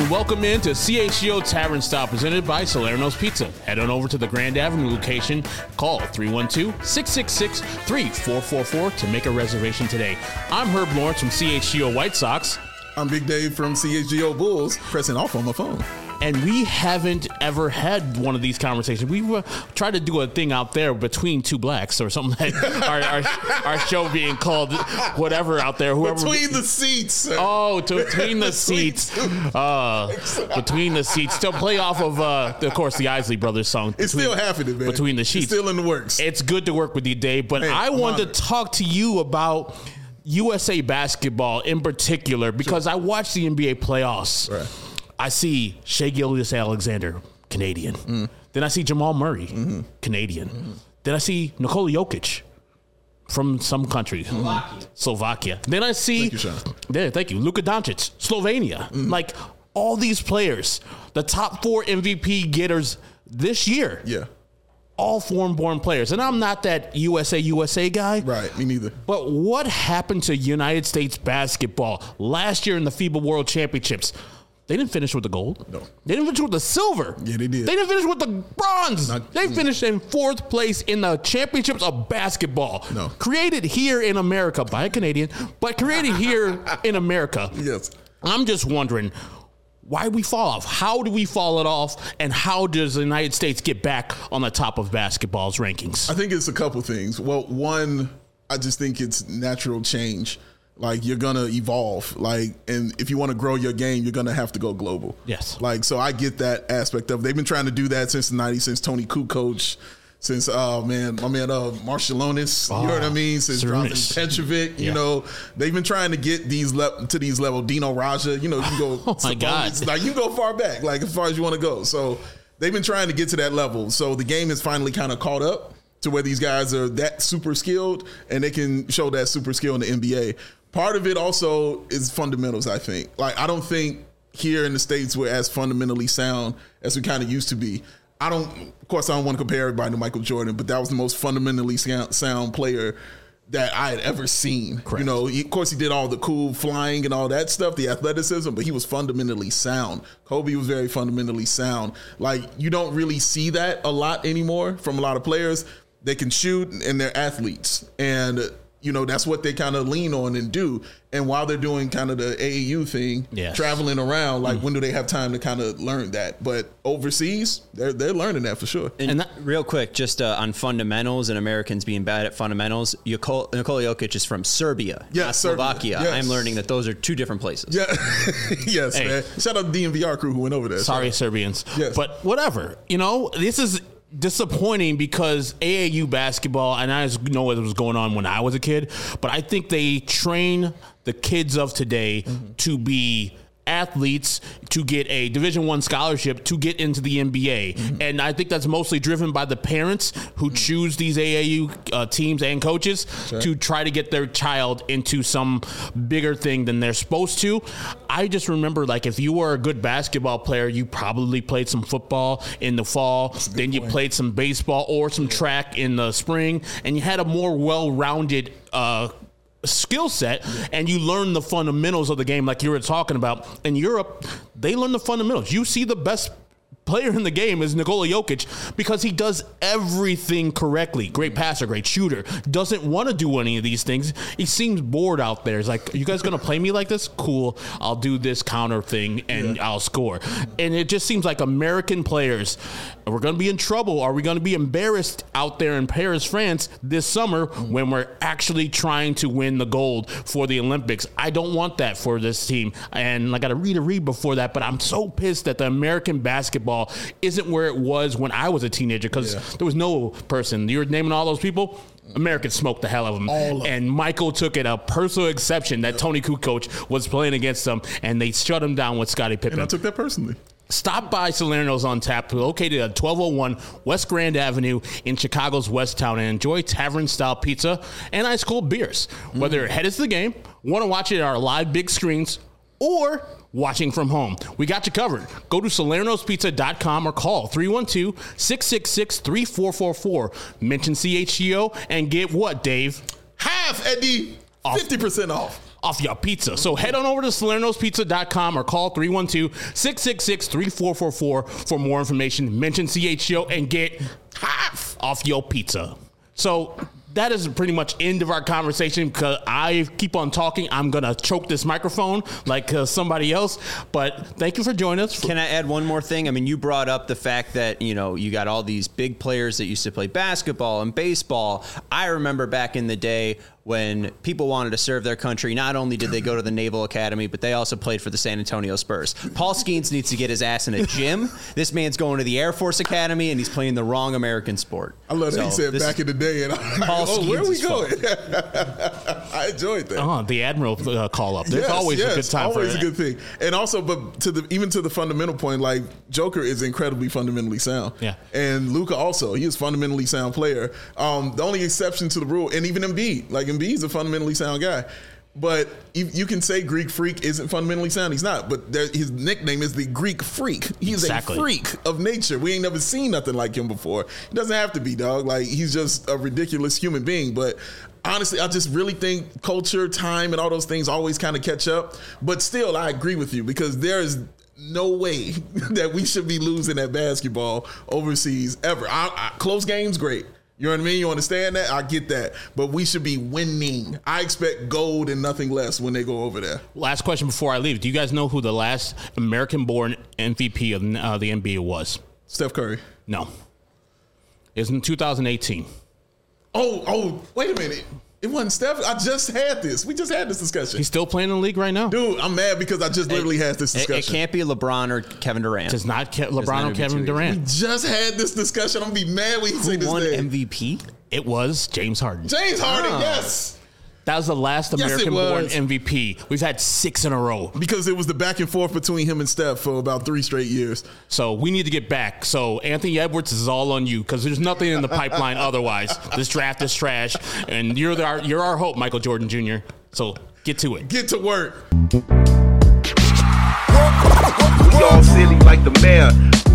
and welcome into CHGO Tavern Style presented by Salerno's Pizza. Head on over to the Grand Avenue location. Call 312-666-3444 to make a reservation today. I'm Herb Lawrence from CHGO White Sox. I'm Big Dave from CHGO Bulls, pressing off on my phone. And we haven't ever had one of these conversations. We tried to do a thing out there between two blacks or something like our show being called whatever out there. Whoever Between the seats. Oh, between the seats. Between the seats. Still play off of course, the Isley Brothers song. It's still happening, man. Between the sheets. It's still in the works. It's good to work with you, Dave. But I wanted to talk to you about USA basketball in particular because I watched the NBA playoffs. Right. I see Shai Gilgeous-Alexander, Canadian. Then I see Jamal Murray, Canadian. Then I see Nikola Jokic from some country, Slovakia. Then I see, thank you, Luka Doncic, Slovenia. Like all these players, the top 4 MVP getters this year. Yeah. All foreign-born players. And I'm not that USA guy. Right, me neither. But what happened to United States basketball last year in the FIBA World Championships? They didn't finish with the gold. No. They didn't finish with the silver. Yeah, they did. They didn't finish with the bronze. They finished in 4th place in the championships of basketball. No. Created here in America by a Canadian, but created here in America. Yes. I'm just wondering why we fall off. How do we fall it off? And how does the United States get back on the top of basketball's rankings? I think it's a couple things. Well, one, I just think it's natural change. Like, you're going to evolve. Like, and if you want to grow your game, you're going to have to go global. Yes. Like, so I get that aspect of it. They've been trying to do that since the 90s, since Tony Kukoc, since, my man, Marciulionis, you know what I mean? Since Jonathan Petrovic, you know, they've been trying to get to these levels. Dino Raja, you know, you can go. Oh, my God. Like, you can go far back, like, as far as you want to go. So they've been trying to get to that level. So the game has finally kind of caught up to where these guys are that super skilled and they can show that super skill in the NBA. Part of it also is fundamentals, I think. Like, I don't think here in the States we're as fundamentally sound as we kind of used to be. Of course, I don't want to compare everybody to Michael Jordan, but that was the most fundamentally sound player that I had ever seen. Correct. You know, of course, he did all the cool flying and all that stuff, the athleticism, but he was fundamentally sound. Kobe was very fundamentally sound. Like, you don't really see that a lot anymore from a lot of players. They can shoot and they're athletes. And you know, that's what they kind of lean on and do. And while they're doing kind of the AAU thing, traveling around, like when do they have time to kind of learn that? But overseas, they're learning that for sure. And that, real quick, just on fundamentals and Americans being bad at fundamentals, Nikola Jokic is from Serbia, not Slovakia. Yes. I'm learning that those are 2 different places. Yeah, yes, man. Shout out to the DNVR crew who went over there. Sorry, Serbians. Yes. But whatever. You know, this is disappointing because AAU basketball, and I know what was going on when I was a kid, but I think they train the kids of today to be athletes, to get a Division I scholarship, to get into the NBA. And I think that's mostly driven by the parents who choose these AAU teams and coaches to try to get their child into some bigger thing than they're supposed to. I just remember, like, if you were a good basketball player, you probably played some football in the fall, then you played some baseball or some track in the spring, and you had a more well-rounded skill set, and you learn the fundamentals of the game like you were talking about. In Europe, they learn the fundamentals. You see the best player in the game is Nikola Jokic because he does everything correctly. Great passer, great shooter. Doesn't want to do any of these things. He seems bored out there. He's like, are you guys going to play me like this? Cool. I'll do this counter thing and I'll score. And it just seems like American players, we're going to be in trouble. Are we going to be embarrassed out there in Paris, France this summer when we're actually trying to win the gold for the Olympics? I don't want that for this team. And I got to read before that, but I'm so pissed that the American basketball isn't where it was when I was a teenager because there was no person. You're naming all those people. Americans smoked the hell out of them. And Michael took it a personal exception that Tony Kukoc was playing against them, and they shut him down with Scottie Pippen. And I took that personally. Stop by Salerno's on Tap, located at 1201 West Grand Avenue in Chicago's West Town, and enjoy tavern-style pizza and ice-cold beers. Whether you're headed to the game, want to watch it at our live big screens, or watching from home, we got you covered. Go to salernospizza.com or call 312-666-3444. Mention CHGO and get what, Dave? Half, Eddie. 50% off. off your pizza. So head on over to Salerno'sPizza.com or call 312-666-3444 for more information. Mention CHGO and get half off your pizza. So that is pretty much end of our conversation because I keep on talking. I'm going to choke this microphone like somebody else. But thank you for joining us. Can I add one more thing? I mean, you brought up the fact that, you got all these big players that used to play basketball and baseball. I remember back in the day when people wanted to serve their country, not only did they go to the Naval Academy, but they also played for the San Antonio Spurs. Paul Skeens needs to get his ass in a gym. This man's going to the Air Force Academy, and he's playing the wrong American sport. I love that he said back in the day. And I'm like, where are we going? I enjoyed that. The Admiral call up. There's always a good time for always a good thing. And also, but even to the fundamental point, like Joker is incredibly fundamentally sound. Yeah. And Luka also, he is a fundamentally sound player. The only exception to the rule, and even Embiid, Embiid's a fundamentally sound guy. But you can say Greek Freak isn't fundamentally sound. He's not. But his nickname is the Greek Freak. He's a freak of nature. We ain't never seen nothing like him before. He doesn't have to be, dog. Like, he's just a ridiculous human being. But honestly, I just really think culture, time, and all those things always kind of catch up. But still, I agree with you because there is no way that we should be losing at basketball overseas ever. Close games, great. You know what I mean? You understand that? I get that. But we should be winning. I expect gold and nothing less when they go over there. Last question before I leave. Do you guys know who the last American-born MVP of the NBA was? Steph Curry. No. It was in 2018. Oh, wait a minute. It wasn't Steph. I just had this. We just had this discussion. He's still playing in the league right now. Dude, I'm mad because I just literally had this discussion. It can't be LeBron or Kevin Durant. It's not LeBron or Kevin Durant. We just had this discussion. I'm going to be mad when he say this name. Who won MVP? It was James Harden. James Harden, yes. That was the last American-born MVP. We've had 6 in a row. Because it was the back and forth between him and Steph for about 3 straight years. So we need to get back. So Anthony Edwards is all on you because there's nothing in the pipeline otherwise. This draft is trash. And you're our hope, Michael Jordan Jr. So get to it. Get to work. We all silly like the mayor.